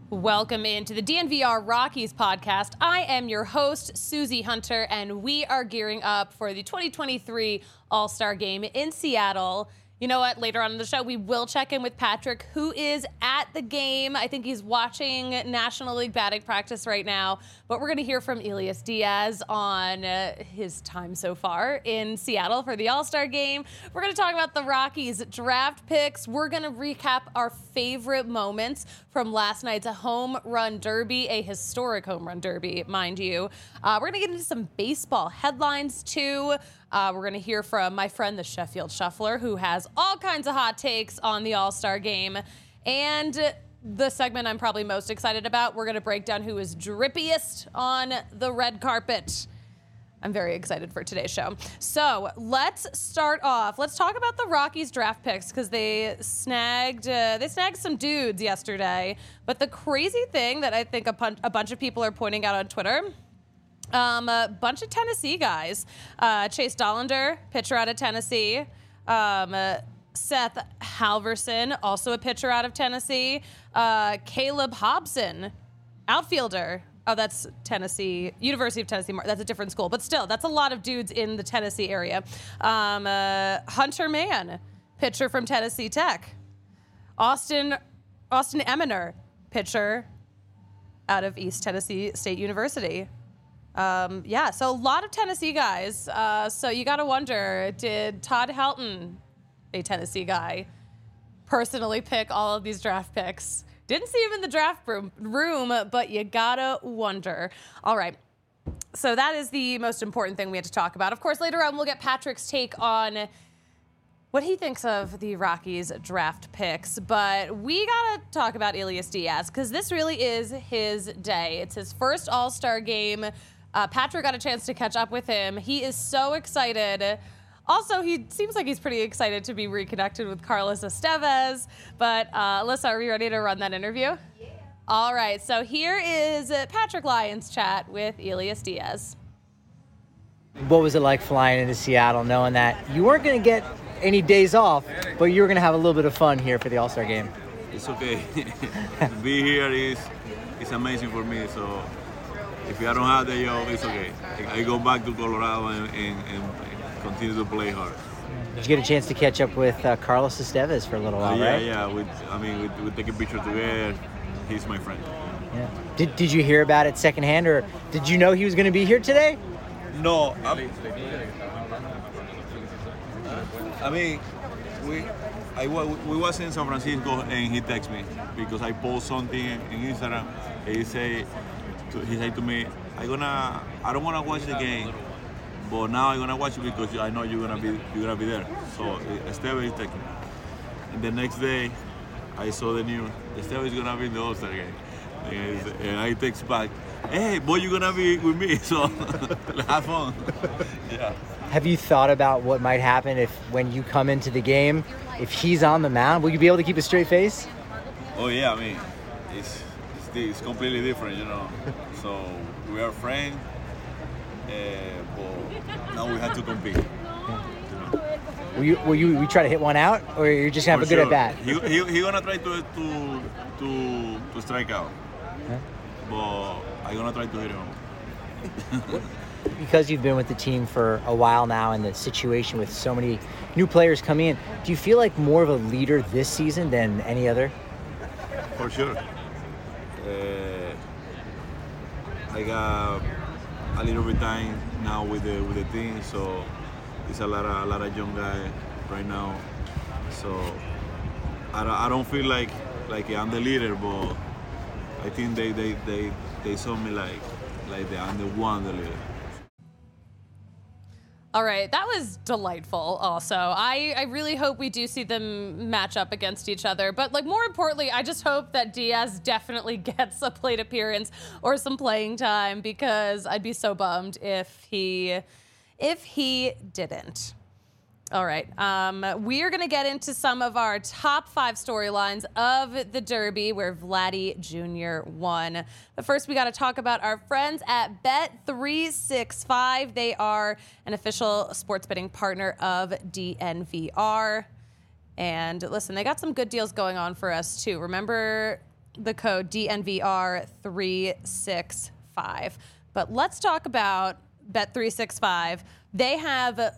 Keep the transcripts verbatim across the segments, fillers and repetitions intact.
Welcome into the D N V R Rockies podcast. I am your host, Susie Hunter, and we are gearing up for the twenty twenty-three All-Star Game in Seattle. You know what? Later on in the show, we will check in with Patrick, who is at the game. I think he's watching National League batting practice right now. But we're going to hear from Elias Diaz on uh, his time so far in Seattle for the All-Star Game. We're going to talk about the Rockies draft picks. We're going to recap our favorite moments from last night's home run derby, a historic home run derby, mind you. Uh, we're going to get into some baseball headlines, too. Uh, we're going to hear from my friend, the Sheffield Shuffler, who has all kinds of hot takes on the All-Star Game. And the segment I'm probably most excited about, we're going to break down who is drippiest on the red carpet. I'm very excited for today's show. So let's start off. Let's talk about the Rockies draft picks because they snagged uh, they snagged some dudes yesterday. But the crazy thing that I think a, pun- a bunch of people are pointing out on Twitter, Um, a bunch of Tennessee guys. Uh, Chase Dollander, pitcher out of Tennessee. Um, uh, Seth Halverson, also a pitcher out of Tennessee. Uh, Caleb Hobson, outfielder. Oh, that's Tennessee, University of Tennessee. That's a different school. But still, that's a lot of dudes in the Tennessee area. Um, uh, Hunter Mann, pitcher from Tennessee Tech. Austin, Austin Eminer, pitcher out of East Tennessee State University. Um, yeah, so a lot of Tennessee guys. Uh, so you got to wonder, did Todd Helton, a Tennessee guy, personally pick all of these draft picks? Didn't see him in the draft room, room, but you got to wonder. All right, so that is the most important thing we had to talk about. Of course, later on, we'll get Patrick's take on what he thinks of the Rockies draft picks. But we got to talk about Elias Diaz because this really is his day. It's his first All-Star game. Uh, Patrick got a chance to catch up with him. He is so excited. Also, he seems like he's pretty excited to be reconnected with Carlos Estevez. But uh, Alyssa, are we ready to run that interview? Yeah. All right, so here is Patrick Lyons' chat with Elias Diaz. What was it like flying into Seattle knowing that you weren't going to get any days off, but you were going to have a little bit of fun here for the All-Star Game? It's okay. Be here is is amazing for me, so if I don't have the job, it's okay. I go back to Colorado and, and, and continue to play hard. Did you get a chance to catch up with uh, Carlos Estevez for a little while, uh, yeah, right? Yeah, yeah. I mean, we, we take a picture together. He's my friend. Yeah. Did Did you hear about it secondhand, or did you know he was going to be here today? No. I, I mean, we I we was in San Francisco and he texted me because I post something in Instagram. And he say. He said to me, "I gonna, I don't wanna watch the game, but now I'm gonna watch it because I know you're gonna be, you're gonna be there." So Estevez is taking. And the next day, I saw the news. Estevez is gonna be in the All-Star game, and, and I text back, "Hey, boy, you're gonna be with me, so have fun." Yeah. Have you thought about what might happen if, when you come into the game, if he's on the mound, will you be able to keep a straight face? Oh yeah, I mean, it's. It's completely different, you know. So we are friends, uh, but now we have to compete. You know? Will you will you we try to hit one out, or you're just gonna have For a good sure. at bat? He he he gonna try to to to to strike out, huh? but I gonna try to hit him. Because you've been with the team for a while now, and the situation with so many new players coming in, do you feel like more of a leader this season than any other? For sure. Uh, I got a little bit time now with the with the team, so it's a lot of a lot of young guys right now. So I don't, I don't feel like like I'm the leader, but I think they they, they, they saw me like like the, I'm the one the leader. All right, that was delightful also. I, I really hope we do see them match up against each other. But like more importantly, I just hope that Diaz definitely gets a plate appearance or some playing time because I'd be so bummed if he if he didn't. All right, um, we are going to get into some of our top five storylines of the Derby where Vladdy Junior won. But first, we got to talk about our friends at Bet three sixty-five. They are an official sports betting partner of D N V R. And listen, they got some good deals going on for us, too. Remember the code D N V R three sixty-five. But let's talk about Bet three sixty-five. They have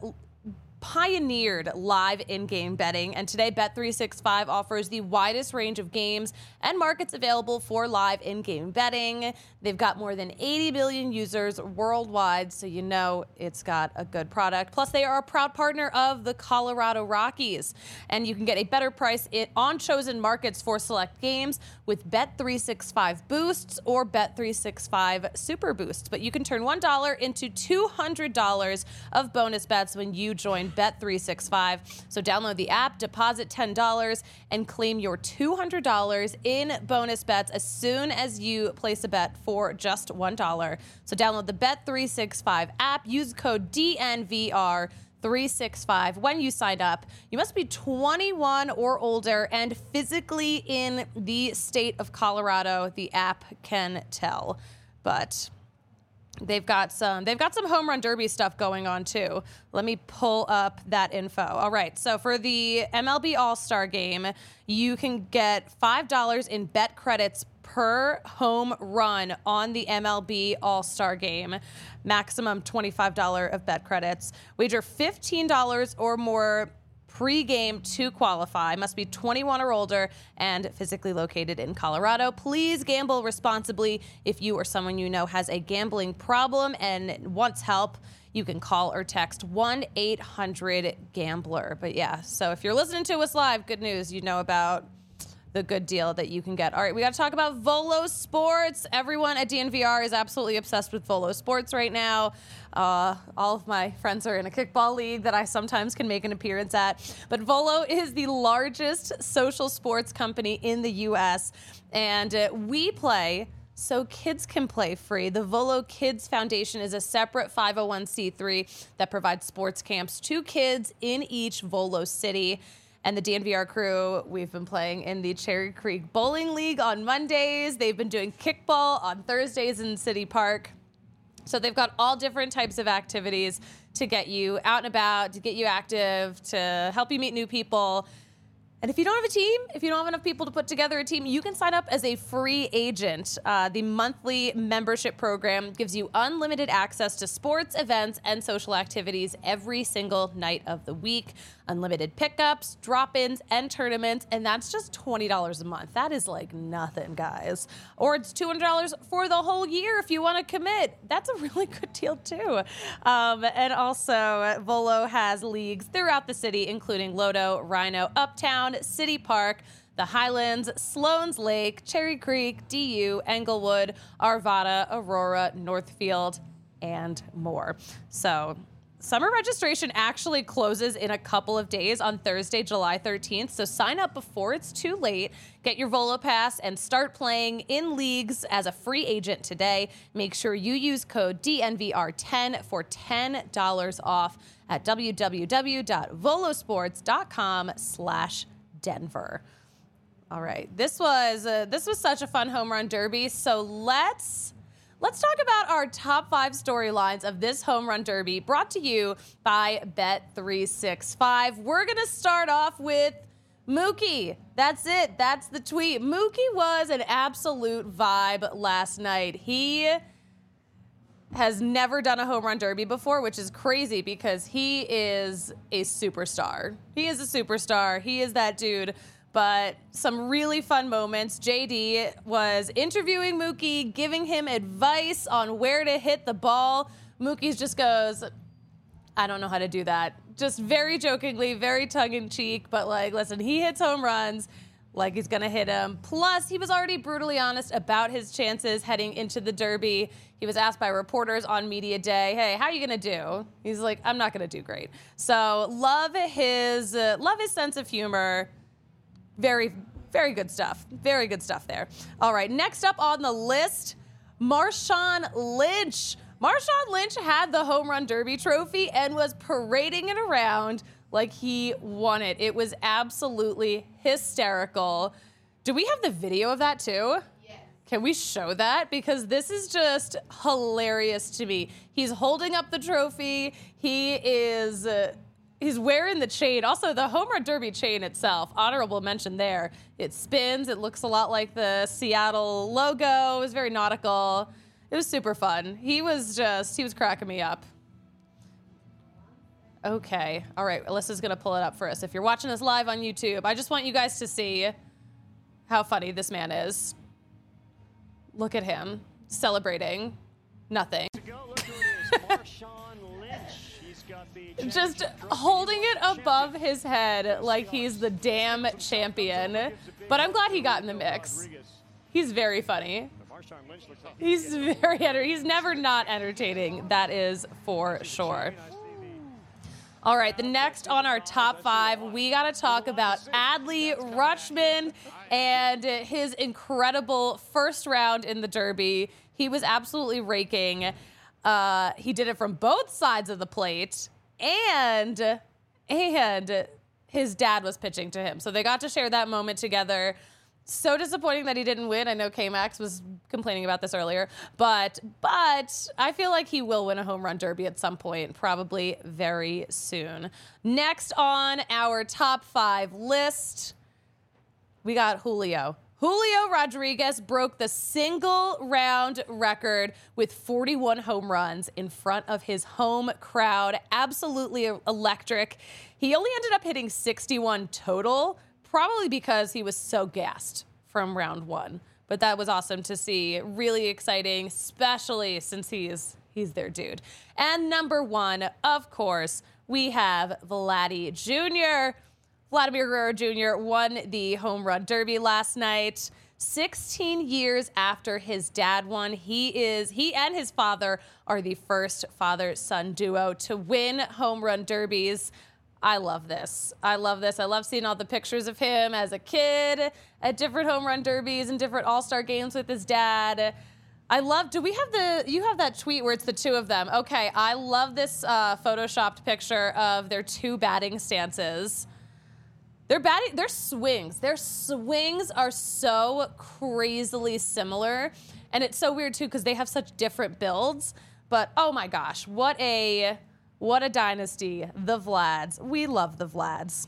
pioneered live in-game betting, and today Bet three sixty-five offers the widest range of games and markets available for live in-game betting. They've got more than eighty million users worldwide, so you know it's got a good product. Plus, they are a proud partner of the Colorado Rockies, and you can get a better price on chosen markets for select games with Bet three sixty-five Boosts or Bet three sixty-five Super Boosts. But you can turn one dollar into two hundred dollars of bonus bets when you join Bet three sixty-five. So download the app, deposit ten dollars, and claim your two hundred dollars in bonus bets as soon as you place a bet for just one dollar. So download the Bet three sixty-five app, use code D N V R three sixty-five when you sign up. You must be twenty-one or older and physically in the state of Colorado. The app can tell. But They've got some they've got some home run derby stuff going on too. Let me pull up that info. All right. So for the M L B All-Star game, you can get five dollars in bet credits per home run on the M L B All-Star game. Maximum twenty-five dollars of bet credits. Wager fifteen dollars or more pre-game to qualify. Must be twenty-one or older and physically located in Colorado. Please gamble responsibly. If you or someone you know has a gambling problem and wants help, you can call or text one eight hundred gambler. But yeah, so if you're listening to us live, good news, you know about the good deal that you can get. All right, we got to talk about Volo Sports. Everyone at D N V R is absolutely obsessed with Volo Sports right now. Uh, all of my friends are in a kickball league that I sometimes can make an appearance at. But Volo is the largest social sports company in the U S, and uh, we play so kids can play free. The Volo Kids Foundation is a separate five oh one c three that provides sports camps to kids in each Volo city. And the D N V R crew, we've been playing in the Cherry Creek Bowling League on Mondays. They've been doing kickball on Thursdays in City Park. So they've got all different types of activities to get you out and about, to get you active, to help you meet new people. And if you don't have a team, if you don't have enough people to put together a team, you can sign up as a free agent. Uh, the monthly membership program gives you unlimited access to sports, events, and social activities every single night of the week. Unlimited pickups, drop-ins, and tournaments, and that's just twenty dollars a month. That is like nothing, guys. Or it's two hundred dollars for the whole year if you want to commit. That's a really good deal, too. Um, and also, Volo has leagues throughout the city, including Lodo, Rhino, Uptown, City Park, the Highlands, Sloan's Lake, Cherry Creek, D U, Englewood, Arvada, Aurora, Northfield, and more. So summer registration actually closes in a couple of days on Thursday, July thirteenth. So sign up before it's too late. Get your Volo Pass and start playing in leagues as a free agent today. Make sure you use code D N V R ten for ten dollars off at w w w dot volosports dot com slash Denver. All right, this was uh, this was such a fun home run derby. So let's let's talk about our top five storylines of this home run derby, brought to you by Bet three sixty-five. We're gonna start off with Mookie. That's it. That's the tweet. Mookie was an absolute vibe last night. He has never done a home run derby before, which is crazy because he is a superstar. He is a superstar. He is that dude. But some really fun moments. J D was interviewing Mookie, giving him advice on where to hit the ball. Mookie just goes, I don't know how to do that. Just very jokingly, very tongue-in-cheek, but like, listen, he hits home runs like he's gonna hit him. Plus, he was already brutally honest about his chances heading into the Derby. He was asked by reporters on media day, hey, how are you gonna do? He's like, I'm not gonna do great. So love his, uh, love his sense of humor. Very, very good stuff. Very good stuff there. All right, next up on the list, Marshawn Lynch. Marshawn Lynch had the home run derby trophy and was parading it around like he won it. It was absolutely hysterical. Do we have the video of that too? Yes. Can we show that? Because this is just hilarious to me. He's holding up the trophy. He is... Uh, he's wearing the chain. Also, the Home Run Derby chain itself, honorable mention there. It spins. It looks a lot like the Seattle logo. It was very nautical. It was super fun. He was just, he was cracking me up. Okay. All right. Alyssa's going to pull it up for us. If you're watching us live on YouTube, I just want you guys to see how funny this man is. Look at him celebrating nothing. Just holding it above his head like he's the damn champion. But I'm glad he got in the mix. He's very funny. He's very enter- he's never not entertaining. That is for sure. All right, the next on our top five, we got to talk about Adley Rutschman and his incredible first round in the Derby. He was absolutely raking. Uh, he did it from both sides of the plate, and and his dad was pitching to him. So they got to share that moment together. So disappointing that he didn't win. I know K-Max was complaining about this earlier, but but I feel like he will win a home run derby at some point, probably very soon. Next on our top five list, we got Julio. Julio Rodriguez broke the single round record with forty-one home runs in front of his home crowd. Absolutely electric. He only ended up hitting sixty-one total, probably because he was so gassed from round one. But that was awesome to see. Really exciting, especially since he's he's their dude. And number one, of course, we have Vladdy Junior Vladimir Guerrero Junior won the home run derby last night. sixteen years after his dad won, he is he and his father are the first father-son duo to win home run derbies. I love this. I love this. I love seeing all the pictures of him as a kid at different home run derbies and different all-star games with his dad. I love, do we have the, you have that tweet where it's the two of them. Okay, I love this uh, photoshopped picture of their two batting stances. Their batting, their swings, their swings are so crazily similar. And it's so weird too, because they have such different builds. But oh my gosh, what a, what a dynasty, the Vlads. We love the Vlads.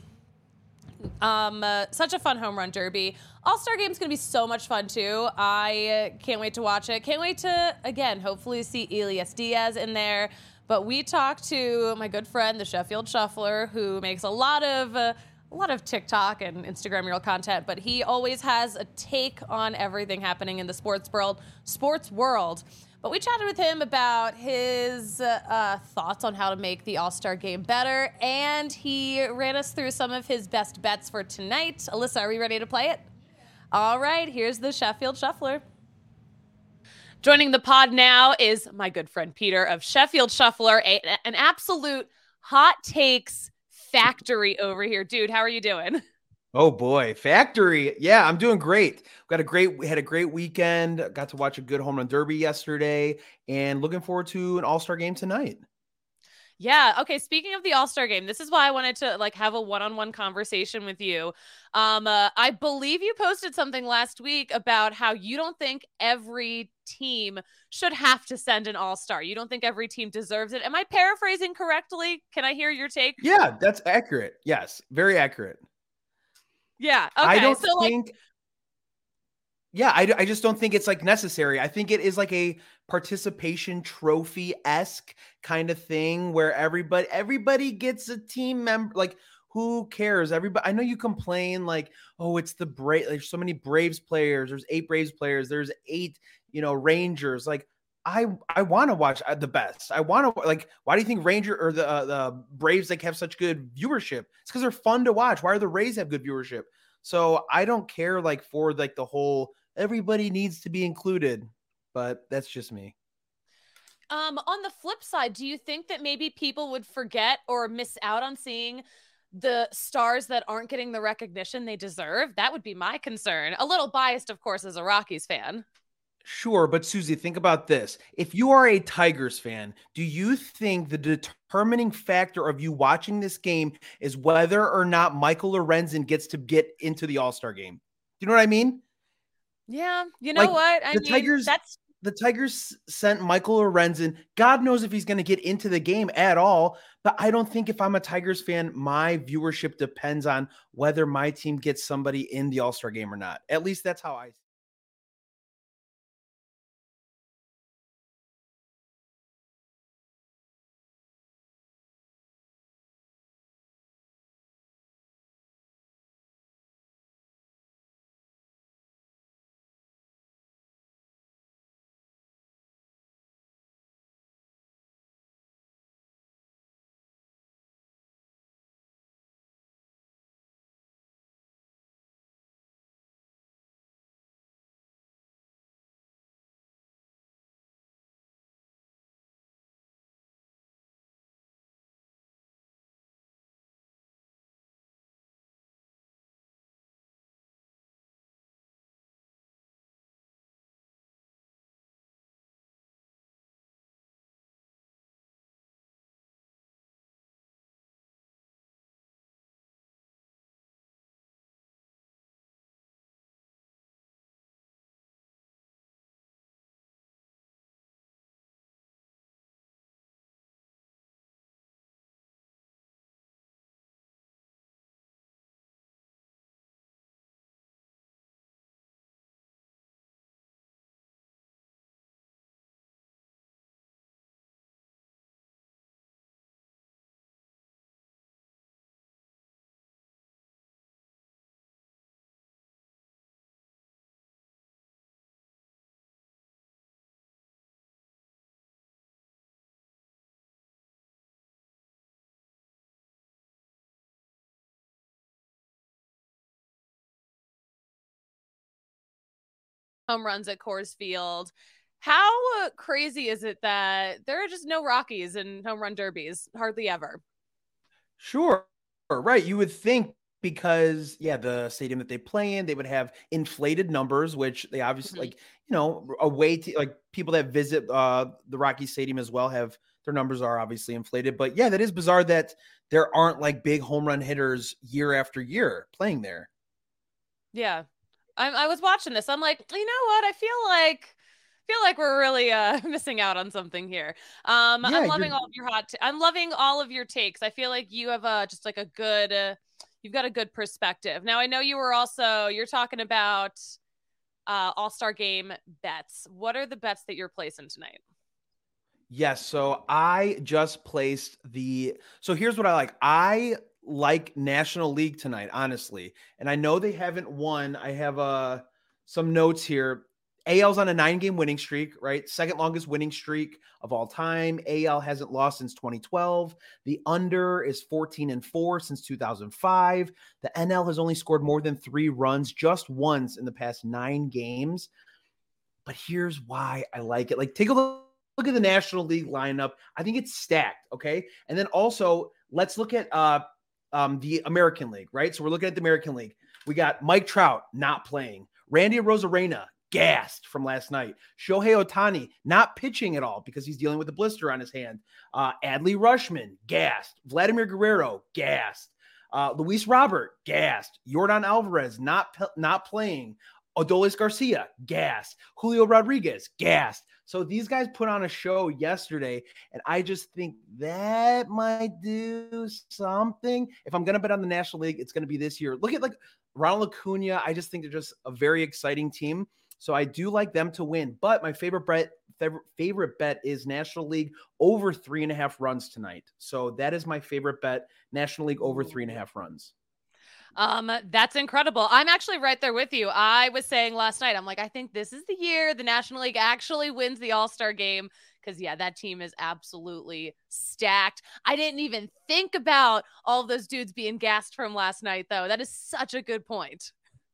Um, uh, such a fun home run derby. All-Star Game's going to be so much fun, too. I uh, can't wait to watch it. Can't wait to, again, hopefully see Elias Diaz in there. But we talked to my good friend, the Sheffield Shuffler, who makes a lot of uh, a lot of TikTok and Instagram reel content, but he always has a take on everything happening in the sports world. Sports world. But we chatted with him about his uh, uh, thoughts on how to make the All-Star Game better, and he ran us through some of his best bets for tonight. Alyssa, are we ready to play it? All right, here's the Sheffield Shuffler. Joining the pod now is my good friend Peter of Sheffield Shuffler, a, an absolute hot takes factory over here. Dude, how are you doing? Oh boy, factory. Yeah, I'm doing great. Got a great, we had a great weekend. Got to watch a good home run derby yesterday and looking forward to an all-star game tonight. Yeah. Okay. Speaking of the All-Star Game, this is why I wanted to like have a one-on-one conversation with you. Um, uh, I believe you posted something last week about how you don't think every team should have to send an All-Star. You don't think every team deserves it. Am I paraphrasing correctly? Can I hear your take? Yeah, that's accurate. Yes, very accurate. Yeah. Okay. I don't so think. Like, yeah, I, I just don't think it's like necessary. I think it is like a participation trophy-esque kind of thing where everybody everybody gets a team member. Like, who cares? Everybody. I know you complain like, oh, it's the Brave. There's so many Braves players. There's eight Braves players. There's eight, you know, Rangers. Like, I I want to watch the best. I want to like. Why do you think Ranger or the uh, the Braves like have such good viewership? It's because they're fun to watch. Why are the Rays have good viewership? So I don't care like for like the whole. Everybody needs to be included, but that's just me. Um, on the flip side, do you think that maybe people would forget or miss out on seeing the stars that aren't getting the recognition they deserve? That would be my concern. A little biased, of course, as a Rockies fan. Sure, but Susie, think about this. If you are a Tigers fan, do you think the determining factor of you watching this game is whether or not Michael Lorenzen gets to get into the All-Star game? Do you know what I mean? Yeah, you know like, what? I the mean, Tigers, that's the Tigers sent Michael Lorenzen. God knows if he's going to get into the game at all. But I don't think if I'm a Tigers fan, my viewership depends on whether my team gets somebody in the All-Star game or not. At least that's how I. Home runs at Coors Field. How uh, crazy is it that there are just no Rockies in home run derbies? Hardly ever. Sure. Right. You would think because, yeah, the stadium that they play in, they would have inflated numbers, which they obviously, Mhm. like, you know, a way to, like, people that visit uh, the Rocky Stadium as well have their numbers are obviously inflated. But yeah, that is bizarre that there aren't like big home run hitters year after year playing there. Yeah. I, I was watching this. I'm like, you know what? I feel like feel like we're really uh missing out on something here. Um, Yeah, I'm you're loving all of your hot. T- I'm loving all of your takes. I feel like you have a just like a good. Uh, you've got a good perspective. Now I know you were also you're talking about uh All-Star game bets. What are the bets that you're placing tonight? Yes. So I just placed the. So here's what I like. I like National League tonight, honestly. And I know they haven't won. I have uh, some notes here. A L's on a nine game winning streak, right? Second longest winning streak of all time. A L hasn't lost since twenty twelve. The under is fourteen and four since two thousand five. The N L has only scored more than three runs just once in the past nine games. But here's why I like it. Like, take a look. Look at the National League lineup. I think it's stacked. Okay. And then also let's look at uh, um, the American League, right? So we're looking at the American League. We got Mike Trout not playing. Randy Arozarena gassed from last night. Shohei Ohtani not pitching at all because he's dealing with a blister on his hand. Uh, Adley Rutschman gassed. Vladimir Guerrero gassed. Uh, Luis Robert gassed. Yordan Alvarez not not playing. Adolis Garcia gassed. Julio Rodriguez gassed. So these guys put on a show yesterday, and I just think that might do something. If I'm going to bet on the National League, it's going to be this year. Look at like Ronald Acuna. I just think they're just a very exciting team. So I do like them to win. But my favorite bet, favorite bet is National League over three and a half runs tonight. So that is my favorite bet, National League over three and a half runs. Um, that's incredible. I'm actually right there with you. I was saying last night, I'm like, I think this is the year the National League actually wins the All-Star game. Because, yeah, that team is absolutely stacked. I didn't even think about all of those dudes being gassed from last night, though. That is such a good point.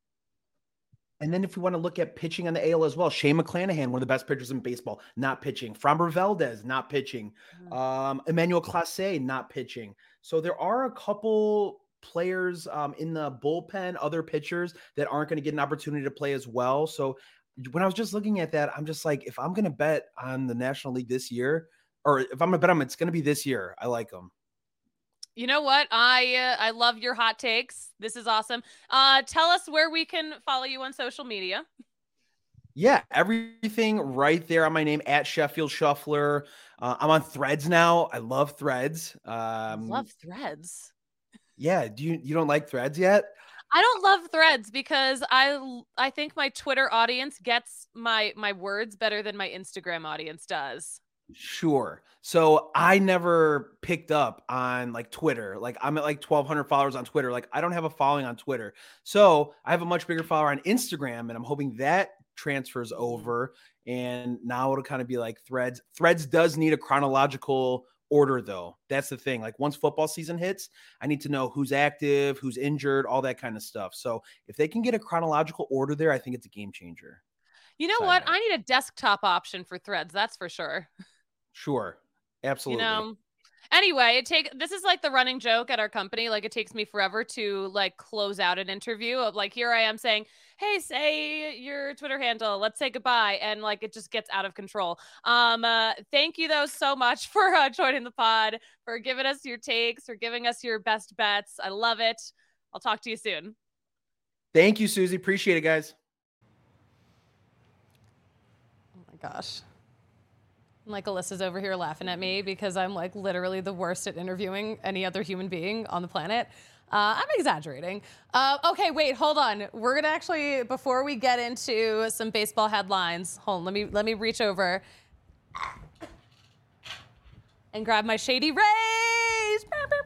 And then if we want to look at pitching on the A L as well, Shane McClanahan, one of the best pitchers in baseball, not pitching. Framber Valdez, not pitching. Mm-hmm. Um, Emmanuel Clase, not pitching. So there are a couple players um, in the bullpen, other pitchers that aren't going to get an opportunity to play as well. So when I was just looking at that, I'm just like, if I'm going to bet on the National League this year, or if I'm going to bet on them, it's going to be this year. I like them. You know what? I uh, I love your hot takes. This is awesome. Uh, tell us where we can follow you on social media. Yeah, everything right there on my name at Sheffield Shuffler. Uh, I'm on Threads now. I love Threads. I love Um, Threads. yeah, do you you don't like Threads yet? I don't love Threads because I I think my Twitter audience gets my my words better than my Instagram audience does. Sure. So I never picked up on like Twitter. Like I'm at like twelve hundred followers on Twitter. Like I don't have a following on Twitter. So I have a much bigger follower on Instagram, and I'm hoping that transfers over. And now it'll kind of be like Threads. Threads does need a chronological order though. That's the thing. Like once football season hits, I need to know who's active, who's injured, all that kind of stuff. So if they can get a chronological order there, I think it's a game changer. You know Side what? note. I need a desktop option for Threads, that's for sure. Sure. You Absolutely. know. Anyway, it take this is like the running joke at our company. Like it takes me forever to like close out an interview of like here I am saying, "Hey, say your Twitter handle. Let's say goodbye," and like it just gets out of control. Um, uh, thank you though so much for uh, joining the pod, for giving us your takes, for giving us your best bets. I love it. I'll talk to you soon. Thank you, Susie. Appreciate it, guys. Oh my gosh. Like Alyssa's over here laughing at me because I'm like literally the worst at interviewing any other human being on the planet. Uh, I'm exaggerating. Uh, okay, wait, hold on. We're gonna actually, before we get into some baseball headlines, hold on, let me let me reach over and grab my Shady Rays.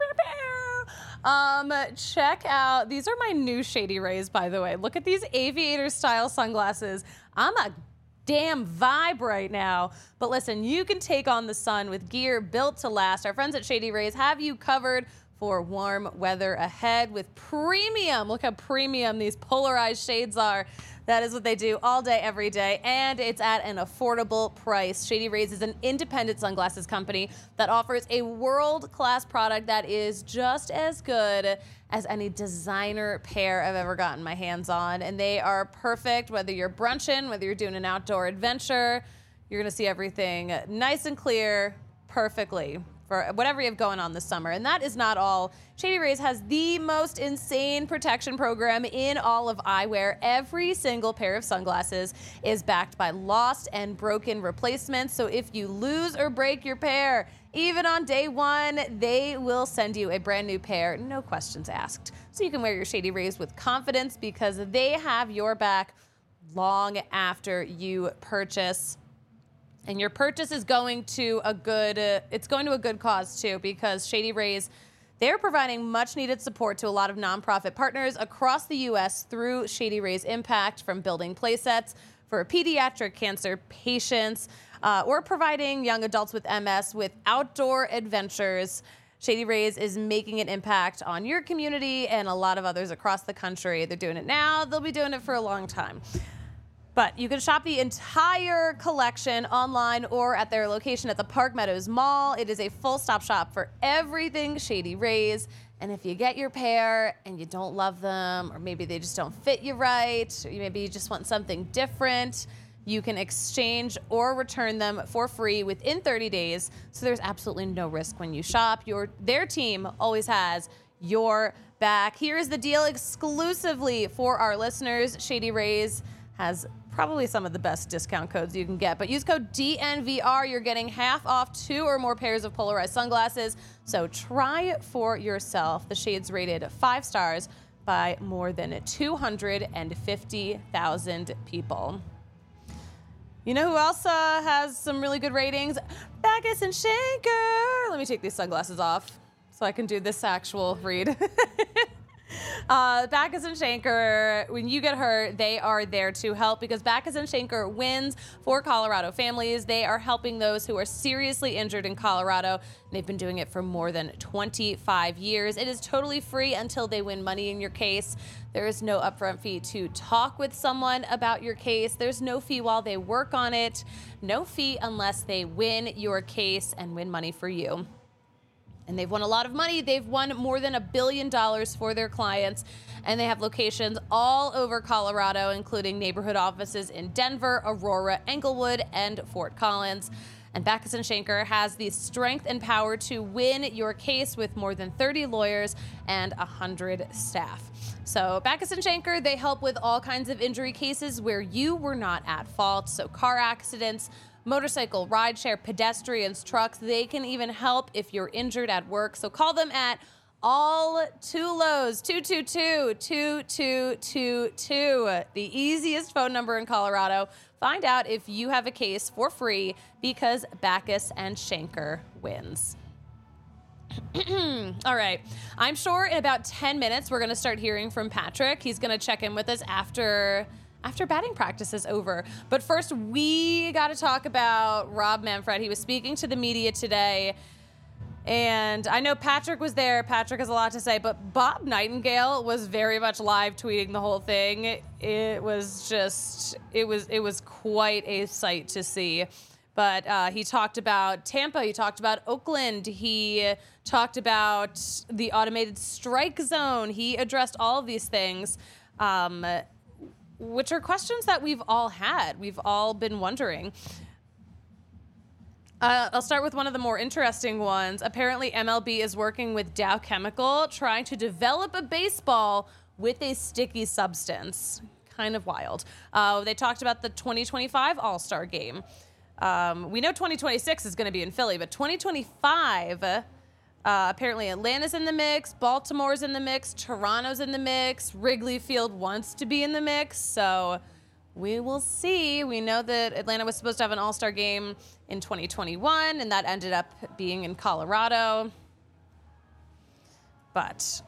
Um, check out, these are my new Shady Rays, by the way. Look at these aviator style sunglasses. I'm a damn vibe right now. But listen, you can take on the sun with gear built to last. Our friends at Shady Rays have you covered for warm weather ahead with premium. Look how premium these polarized shades are. That is what they do all day, every day, and it's at an affordable price. Shady Rays is an independent sunglasses company that offers a world-class product that is just as good as any designer pair I've ever gotten my hands on. And they are perfect whether you're brunching, whether you're doing an outdoor adventure. You're gonna see everything nice and clear perfectly for whatever you have going on this summer. And that is not all. Shady Rays has the most insane protection program in all of eyewear. Every single pair of sunglasses is backed by lost and broken replacements. So if you lose or break your pair, even on day one, they will send you a brand new pair, no questions asked. So you can wear your Shady Rays with confidence because they have your back long after you purchase. And your purchase is going to a good, uh, it's going to a good cause too, because Shady Rays, they're providing much needed support to a lot of nonprofit partners across the U S through Shady Rays Impact, from building playsets for pediatric cancer patients, uh, or providing young adults with M S with outdoor adventures. Shady Rays is making an impact on your community and a lot of others across the country. They're doing it now, they'll be doing it for a long time. But you can shop the entire collection online or at their location at the Park Meadows Mall. It is a full-stop shop for everything Shady Rays. And if you get your pair and you don't love them, or maybe they just don't fit you right, or maybe you just want something different, you can exchange or return them for free within thirty days. So there's absolutely no risk when you shop. Your, their team always has your back. Here is the deal exclusively for our listeners. Shady Rays has probably some of the best discount codes you can get, but use code D N V R. You're getting half off two or more pairs of polarized sunglasses. So try it for yourself. The shades rated five stars by more than two hundred fifty thousand people. You know who else uh, has some really good ratings? Backus and Schenker. Let me take these sunglasses off so I can do this actual read. Uh, Backus and Schenker, when you get hurt, they are there to help, because Backus and Schenker wins for Colorado families. They are helping those who are seriously injured in Colorado. And they've been doing it for more than twenty-five years. It is totally free until they win money in your case. There is no upfront fee to talk with someone about your case. There's no fee while they work on it. No fee unless they win your case and win money for you. And they've won a lot of money. They've won more than a billion dollars for their clients. And they have locations all over Colorado, including neighborhood offices in Denver, Aurora, Englewood, and Fort Collins. And Backus and Schenker has the strength and power to win your case with more than thirty lawyers and one hundred staff. So Backus and Shanker, they help with all kinds of injury cases where you were not at fault. So car accidents, motorcycle, rideshare, pedestrians, trucks, they can even help if you're injured at work. So call them at all two lows, two two two, two two two two, the easiest phone number in Colorado. Find out if you have a case for free because Backus and Shanker wins. All right. I'm sure in about ten minutes, we're going to start hearing from Patrick. He's going to check in with us after after batting practice is over. But first, we got to talk about Rob Manfred. He was speaking to the media today. And I know Patrick was there. Patrick has a lot to say, but Bob Nightingale was very much live tweeting the whole thing. It was just, it was, it was quite a sight to see. But uh, he talked about Tampa. He talked about Oakland. He talked about the automated strike zone. He addressed all of these things, um, which are questions that we've all had. We've all been wondering. Uh, I'll start with one of the more interesting ones. Apparently, M L B is working with Dow Chemical, trying to develop a baseball with a sticky substance. Kind of wild. Uh, they talked about the twenty twenty-five All-Star Game. Um, we know twenty twenty-six is going to be in Philly, but twenty twenty-five, uh, apparently Atlanta's in the mix, Baltimore's in the mix, Toronto's in the mix, Wrigley Field wants to be in the mix, so we will see. We know that Atlanta was supposed to have an All-Star game in twenty twenty-one, and that ended up being in Colorado. But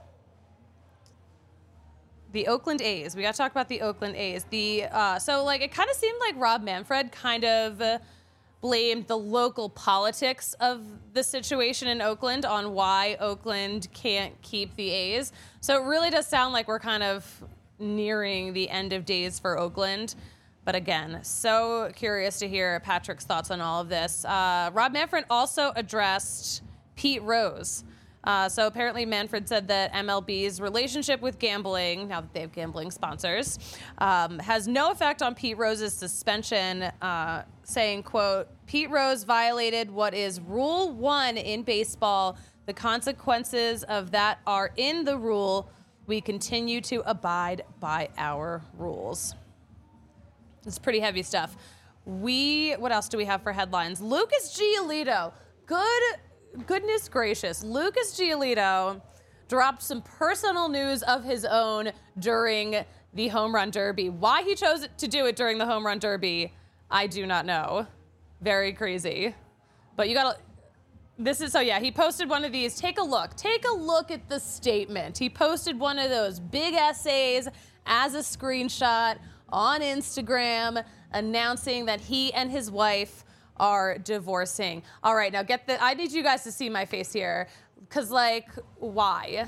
the Oakland A's, we got to talk about the Oakland A's. The uh, so, like, it kind of seemed like Rob Manfred kind of uh, blamed the local politics of the situation in Oakland on why Oakland can't keep the A's. So it really does sound like we're kind of nearing the end of days for Oakland. But again, so curious to hear Patrick's thoughts on all of this. Uh, Rob Manfred also addressed Pete Rose. Uh, so apparently Manfred said that M L B's relationship with gambling, now that they have gambling sponsors, um, has no effect on Pete Rose's suspension, uh, saying, quote, Pete Rose violated what is rule one in baseball. The consequences of that are in the rule. We continue to abide by our rules. It's pretty heavy stuff. We, what else do we have for headlines? Lucas Giolito. Good, goodness gracious. Lucas Giolito dropped some personal news of his own during the Home Run Derby. Why he chose to do it during the Home Run Derby, I do not know. Very crazy. But you gotta, this is, so yeah, he posted one of these. Take a look. Take a look at the statement. He posted one of those big essays as a screenshot on Instagram announcing that he and his wife are divorcing. All right, now get the, I need you guys to see my face here. Cause like, why?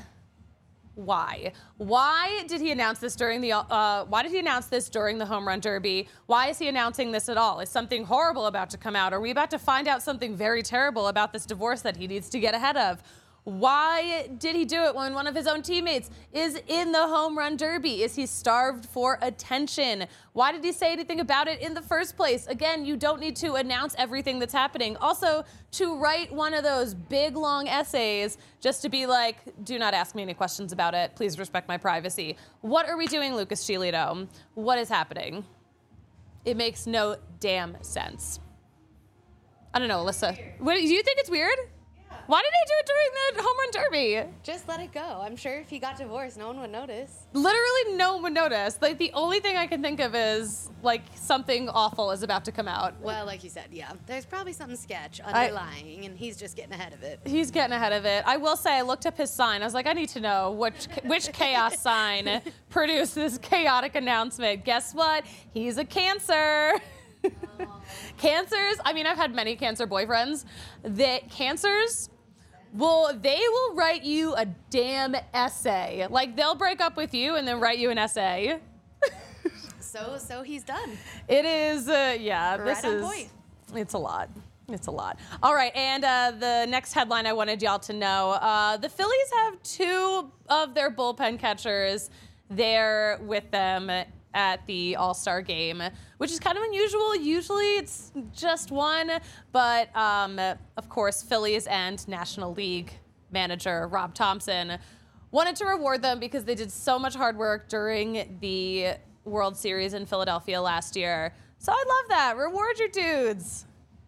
Why? Why did he announce this during the, uh, why did he announce this during the Home Run Derby? Why is he announcing this at all? Is something horrible about to come out? Are we about to find out something very terrible about this divorce that he needs to get ahead of? Why did he do it when one of his own teammates is in the Home Run Derby? Is he starved for attention? Why did he say anything about it in the first place? Again, you don't need to announce everything that's happening. Also, to write one of those big, long essays just to be like, do not ask me any questions about it. Please respect my privacy. What are we doing, Lucas Giolito? What is happening? It makes no damn sense. I don't know, Alyssa. What, do you think it's weird? Why did he do it during the Home Run Derby? Just let it go. I'm sure if he got divorced, no one would notice. Literally no one would notice. Like, the only thing I can think of is, like, something awful is about to come out. Well, like you said, yeah. There's probably something sketch underlying, I, and he's just getting ahead of it. He's getting ahead of it. I will say, I looked up his sign. I was like, I need to know which, which chaos sign produced this chaotic announcement. Guess what? He's a Cancer. Cancers, I mean, I've had many Cancer boyfriends. That Cancers... Well, they will write you a damn essay. Like, they'll break up with you and then write you an essay. so, so he's done. It is, uh, yeah, right this on is, point. It's a lot. It's a lot. All right, and uh, the next headline I wanted y'all to know, uh, the Phillies have two of their bullpen catchers there with them at the All-Star game, which is kind of unusual. Usually it's just one, but um, of course, Phillies and National League manager Rob Thompson Wanted to reward them because they did so much hard work during the World Series in Philadelphia last year. So I love that. Reward your dudes.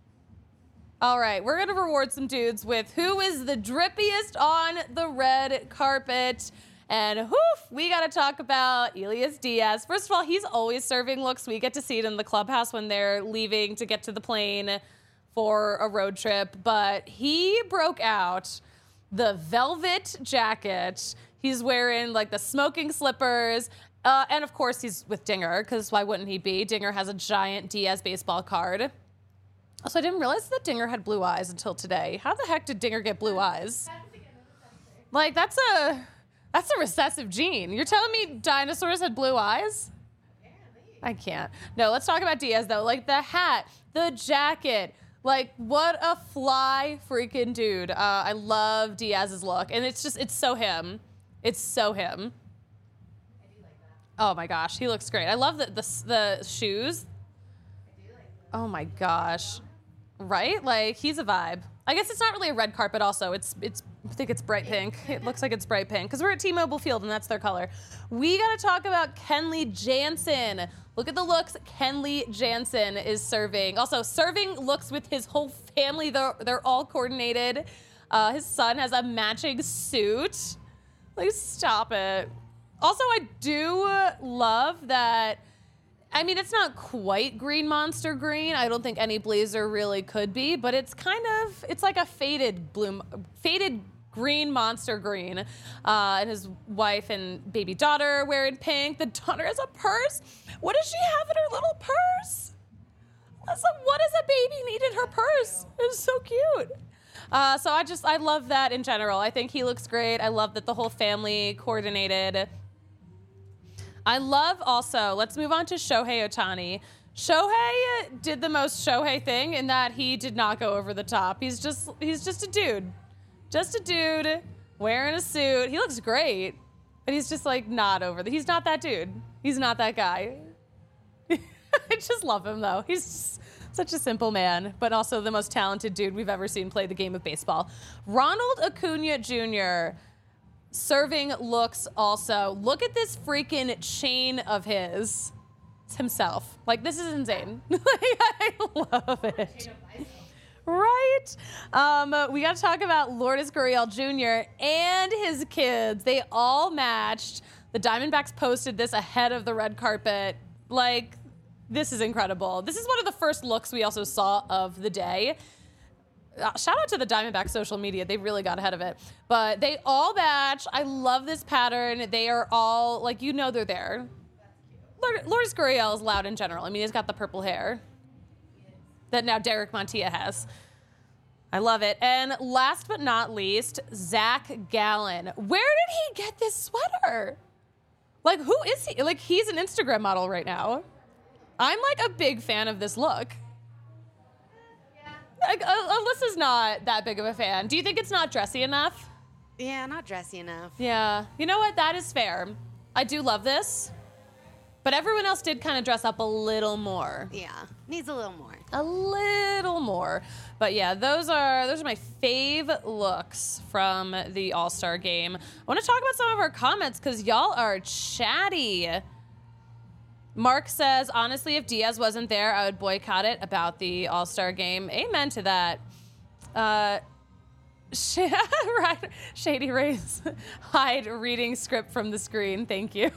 All right, we're going to reward some dudes with who is the drippiest on the red carpet. And whoof, we got to talk about Elias Diaz. First of all, he's always serving looks. We get to see it in the clubhouse when they're leaving to get to the plane for a road trip. But he broke out the velvet jacket. He's wearing like the smoking slippers. Uh, and of course, he's with Dinger, because why wouldn't he be? Dinger has a giant Diaz baseball card. Also, I didn't realize that Dinger had blue eyes until today. How the heck did Dinger get blue eyes? Like, that's a that's a recessive gene. You're telling me dinosaurs had blue eyes? I can't. No, let's talk about Diaz, though. Like, the hat, the jacket. Like, what a fly freaking dude. Uh, I love Diaz's look. And it's just, it's so him. It's so him. Oh, my gosh. He looks great. I love the, the, the shoes. Oh, my gosh. Right? Like, he's a vibe. I guess it's not really a red carpet also. It's, it's. I think it's bright pink. It looks like it's bright pink because we're at T-Mobile Field and that's their color. We got to talk about Kenley Jansen. Look at the looks Kenley Jansen is serving. Also, serving looks with his whole family. They're, they're all coordinated. Uh, his son has a matching suit. Like, stop it. Also, I do love that. I mean, it's not quite green monster green. I don't think any blazer really could be, but it's kind of, it's like a faded bloom, faded green monster green. Uh, and his wife and baby daughter are wearing pink. The daughter has a purse. What does she have in her little purse? So what does a baby need in her purse? It's so cute. Uh, so I just, I love that in general. I think he looks great. I love that the whole family coordinated. I love also, let's move on to Shohei Ohtani. Shohei did the most Shohei thing in that he did not go over the top. He's just he's just a dude. Just a dude wearing a suit. He looks great, but he's just like not over the, he's not that dude. He's not that guy. I just love him though. He's just such a simple man, but also the most talented dude we've ever seen play the game of baseball. Ronald Acuna Junior serving looks also. Look at this freaking chain of his. It's himself. Like, this is insane. I love it. Right? Um, we got to talk about Lourdes Gurriel Junior and his kids. They all matched. The Diamondbacks posted this ahead of the red carpet. Like, this is incredible. This is one of the first looks we also saw of the day. Uh, shout out to the Diamondback social media. They really got ahead of it. But they all match. I love this pattern. They are all, like, you know they're there. Lourdes Lourdes Gurriel is loud in general. I mean, he's got the purple hair that now Derek Montilla has. I love it. And last but not least, Zach Gallen. Where did he get this sweater? Like, who is he? Like, he's an Instagram model right now. I'm, like, a big fan of this look. Like, uh, Alyssa's not that big of a fan. Do you think it's not dressy enough? Yeah, not dressy enough. Yeah. You know what? That is fair. I do love this. But everyone else did kind of dress up a little more. Yeah, needs a little more. A little more. But yeah, those are those are my fave looks from the All-Star game. I want to talk about some of our comments because y'all are chatty. Mark says, honestly, if Diaz wasn't there, I would boycott it about the All-Star game. Amen to that. Uh, sh- right. Shady Rays, hide reading script from the screen. Thank you.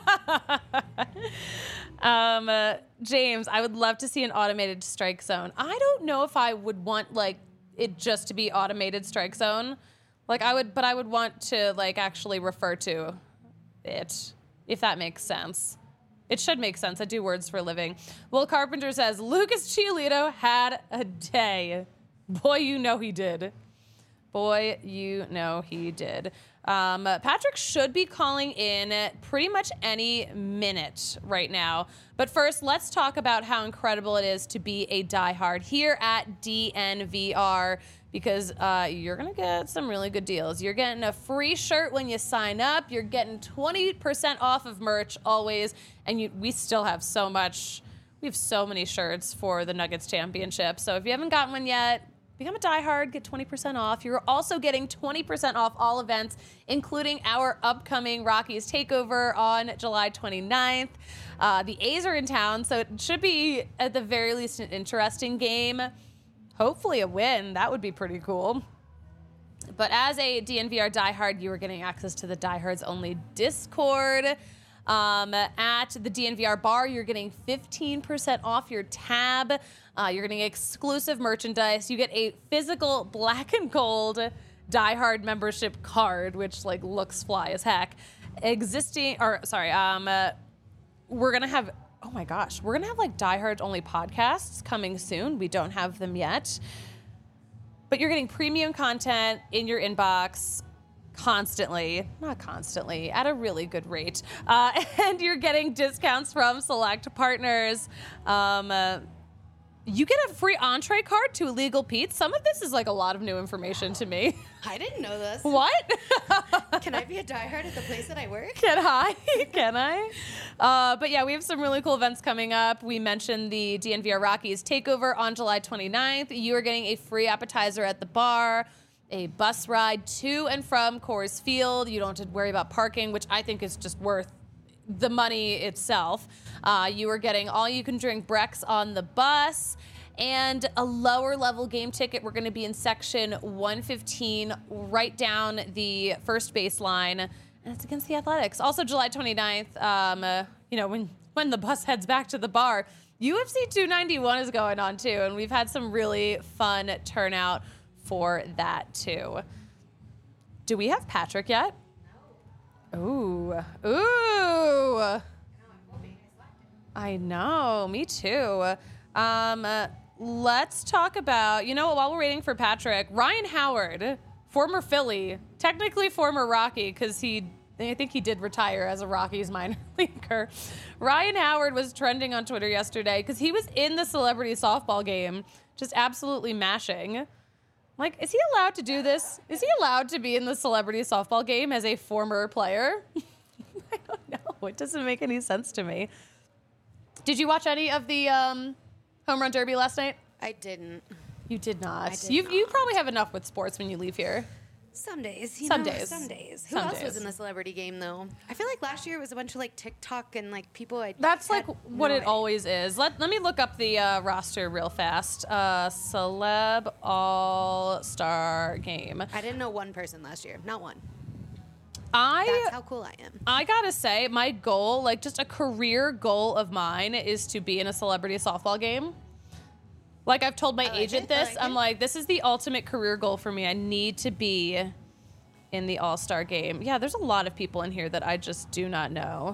um, uh, James, I would love to see an automated strike zone. I don't know if I would want like it just to be automated strike zone. Like I would, but I would want to like actually refer to it, if that makes sense. It should make sense. I do words for a living. Will Carpenter says, Lucas Giolito had a day. Boy, you know he did. Boy, you know he did. Um, Patrick should be calling in pretty much any minute right now. But first, let's talk about how incredible it is to be a diehard here at D N V R because uh, you're going to get some really good deals. You're getting a free shirt when you sign up. You're getting twenty percent off of merch always. And you, we still have so much. We have so many shirts for the Nuggets championship. So if you haven't gotten one yet, become a diehard, get twenty percent off. You're also getting twenty percent off all events, including our upcoming Rockies Takeover on July twenty-ninth. Uh, the A's are in town, so it should be, at the very least, an interesting game. Hopefully a win. That would be pretty cool. But as a D N V R diehard, you are getting access to the Diehards Only Discord. Um, at the D N V R bar, you're getting fifteen percent off your tab. Uh, you're getting exclusive merchandise. You get a physical black and gold diehard membership card, which like looks fly as heck. Existing, or sorry, um, uh, we're gonna have. Oh my gosh, we're gonna have like diehard only podcasts coming soon. We don't have them yet. But you're getting premium content in your inbox constantly, not constantly, at a really good rate. Uh, and you're getting discounts from select partners. Um, uh, you get a free entree card to Illegal Pete's. Some of this is like a lot of new information to me. I didn't know this. What? Can I be a diehard at the place that I work? Can I? Can I? Uh, but yeah, we have some really cool events coming up. We mentioned the D N V R Rockies Takeover on July twenty-ninth. You are getting a free appetizer at the bar, a bus ride to and from Coors Field. You don't have to worry about parking, which I think is just worth the money itself. Uh, you are getting all you can drink Brex on the bus and a lower level game ticket. We're going to be in section one fifteen, right down the first baseline, and it's against the Athletics. Also, July twenty-ninth, um, uh, you know, when, when the bus heads back to the bar, U F C two ninety-one is going on too, and we've had some really fun turnout for that too. Do we have Patrick yet? No. Ooh. Ooh. I know, me too. Um, uh, let's talk about, you know what, while we're waiting for Patrick, Ryan Howard, former Philly, technically former Rocky, because he, I think he did retire as a Rockies minor leaguer. Ryan Howard was trending on Twitter yesterday because he was in the celebrity softball game, just absolutely mashing. Like, is he allowed to do this? Is he allowed to be in the celebrity softball game as a former player? I don't know. It doesn't make any sense to me. Did you watch any of the um, home run derby last night? I didn't. You did not. I did you not. you probably have enough with sports when you leave here. Some days. You Some know, days. Some days. Who Some else days. was in the celebrity game, though? I feel like last year it was a bunch of, like, TikTok and, like, people I That's like had what no it idea. always is. Let let me look up the uh, roster real fast. Uh, Celeb All-Star Game. I didn't know one person last year. Not one. I That's how cool I am. I gotta say, my goal, like just a career goal of mine, is to be in a celebrity softball game. Like I've told my I like agent it, I this. like I'm it. like, this is the ultimate career goal for me. I need to be in the All-Star game. Yeah, there's a lot of people in here that I just do not know.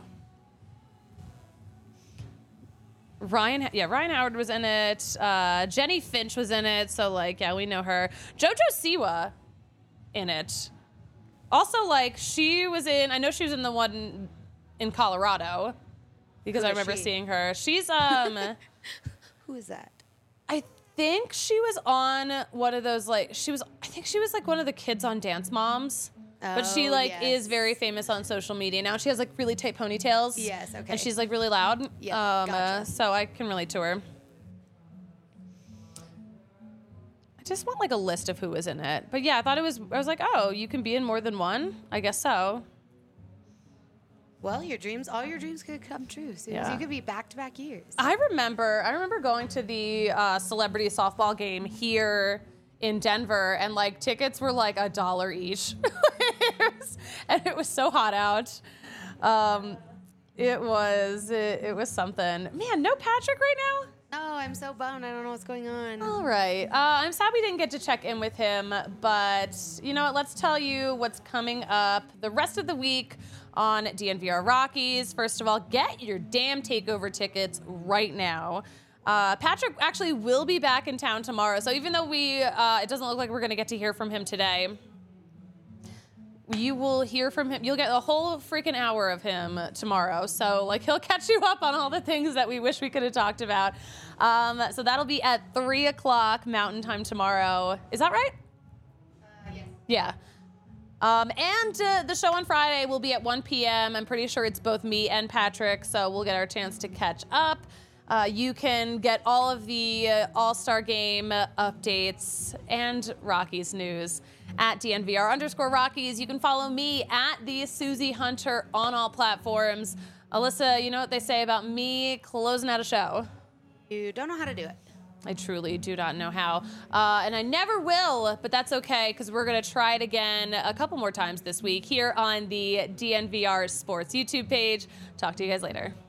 Ryan, yeah, Ryan Howard was in it. Uh, Jenny Finch was in it. So like, yeah, we know her. JoJo Siwa in it. Also, like, she was in, I know she was in the one in Colorado because Who I is remember she? seeing her. She's, um, Who is that? I think she was on one of those, like, she was, I think she was like one of the kids on Dance Moms. But she, Oh, like, yes. is very famous on social media. Now she has, like, really tight ponytails. Yes, okay. And she's, like, really loud. Yeah, um, gotcha. uh, so I can relate to her. I just want, like, a list of who was in it. But, yeah, I thought it was, I was like, oh, you can be in more than one? I guess so. Well, your dreams, all your dreams could come true. So Yeah. you could be back-to-back years. I remember, I remember going to the uh, celebrity softball game here in Denver, and like tickets were like a dollar each, It was- and it was so hot out. Um, it was, it, it was something. Man, no Patrick right now. Oh, I'm so bummed. I don't know what's going on. All right. Uh, I'm sad we didn't get to check in with him, but you know what? Let's tell you what's coming up the rest of the week on D N V R Rockies. First of all, get your damn takeover tickets right now. Uh, Patrick actually will be back in town tomorrow, so even though we, uh, it doesn't look like we're going to get to hear from him today, you will hear from him. You'll get a whole freaking hour of him tomorrow. So, like, he'll catch you up on all the things that we wish we could have talked about. Um, so that'll be at three o'clock Mountain Time tomorrow. Is that right? Uh, yes. Yeah. Um, and uh, the show on Friday will be at one p.m. I'm pretty sure it's both me and Patrick, so we'll get our chance to catch up. Uh, you can get all of the uh, All-Star Game updates and Rockies news at D N V R underscore Rockies. You can follow me at the Susie Hunter on all platforms. Alyssa, you know what they say about me closing out a show? You don't know how to do it. I truly do not know how. Uh, and I never will, but that's okay, because we're going to try it again a couple more times this week here on the D N V R Sports YouTube page. Talk to you guys later.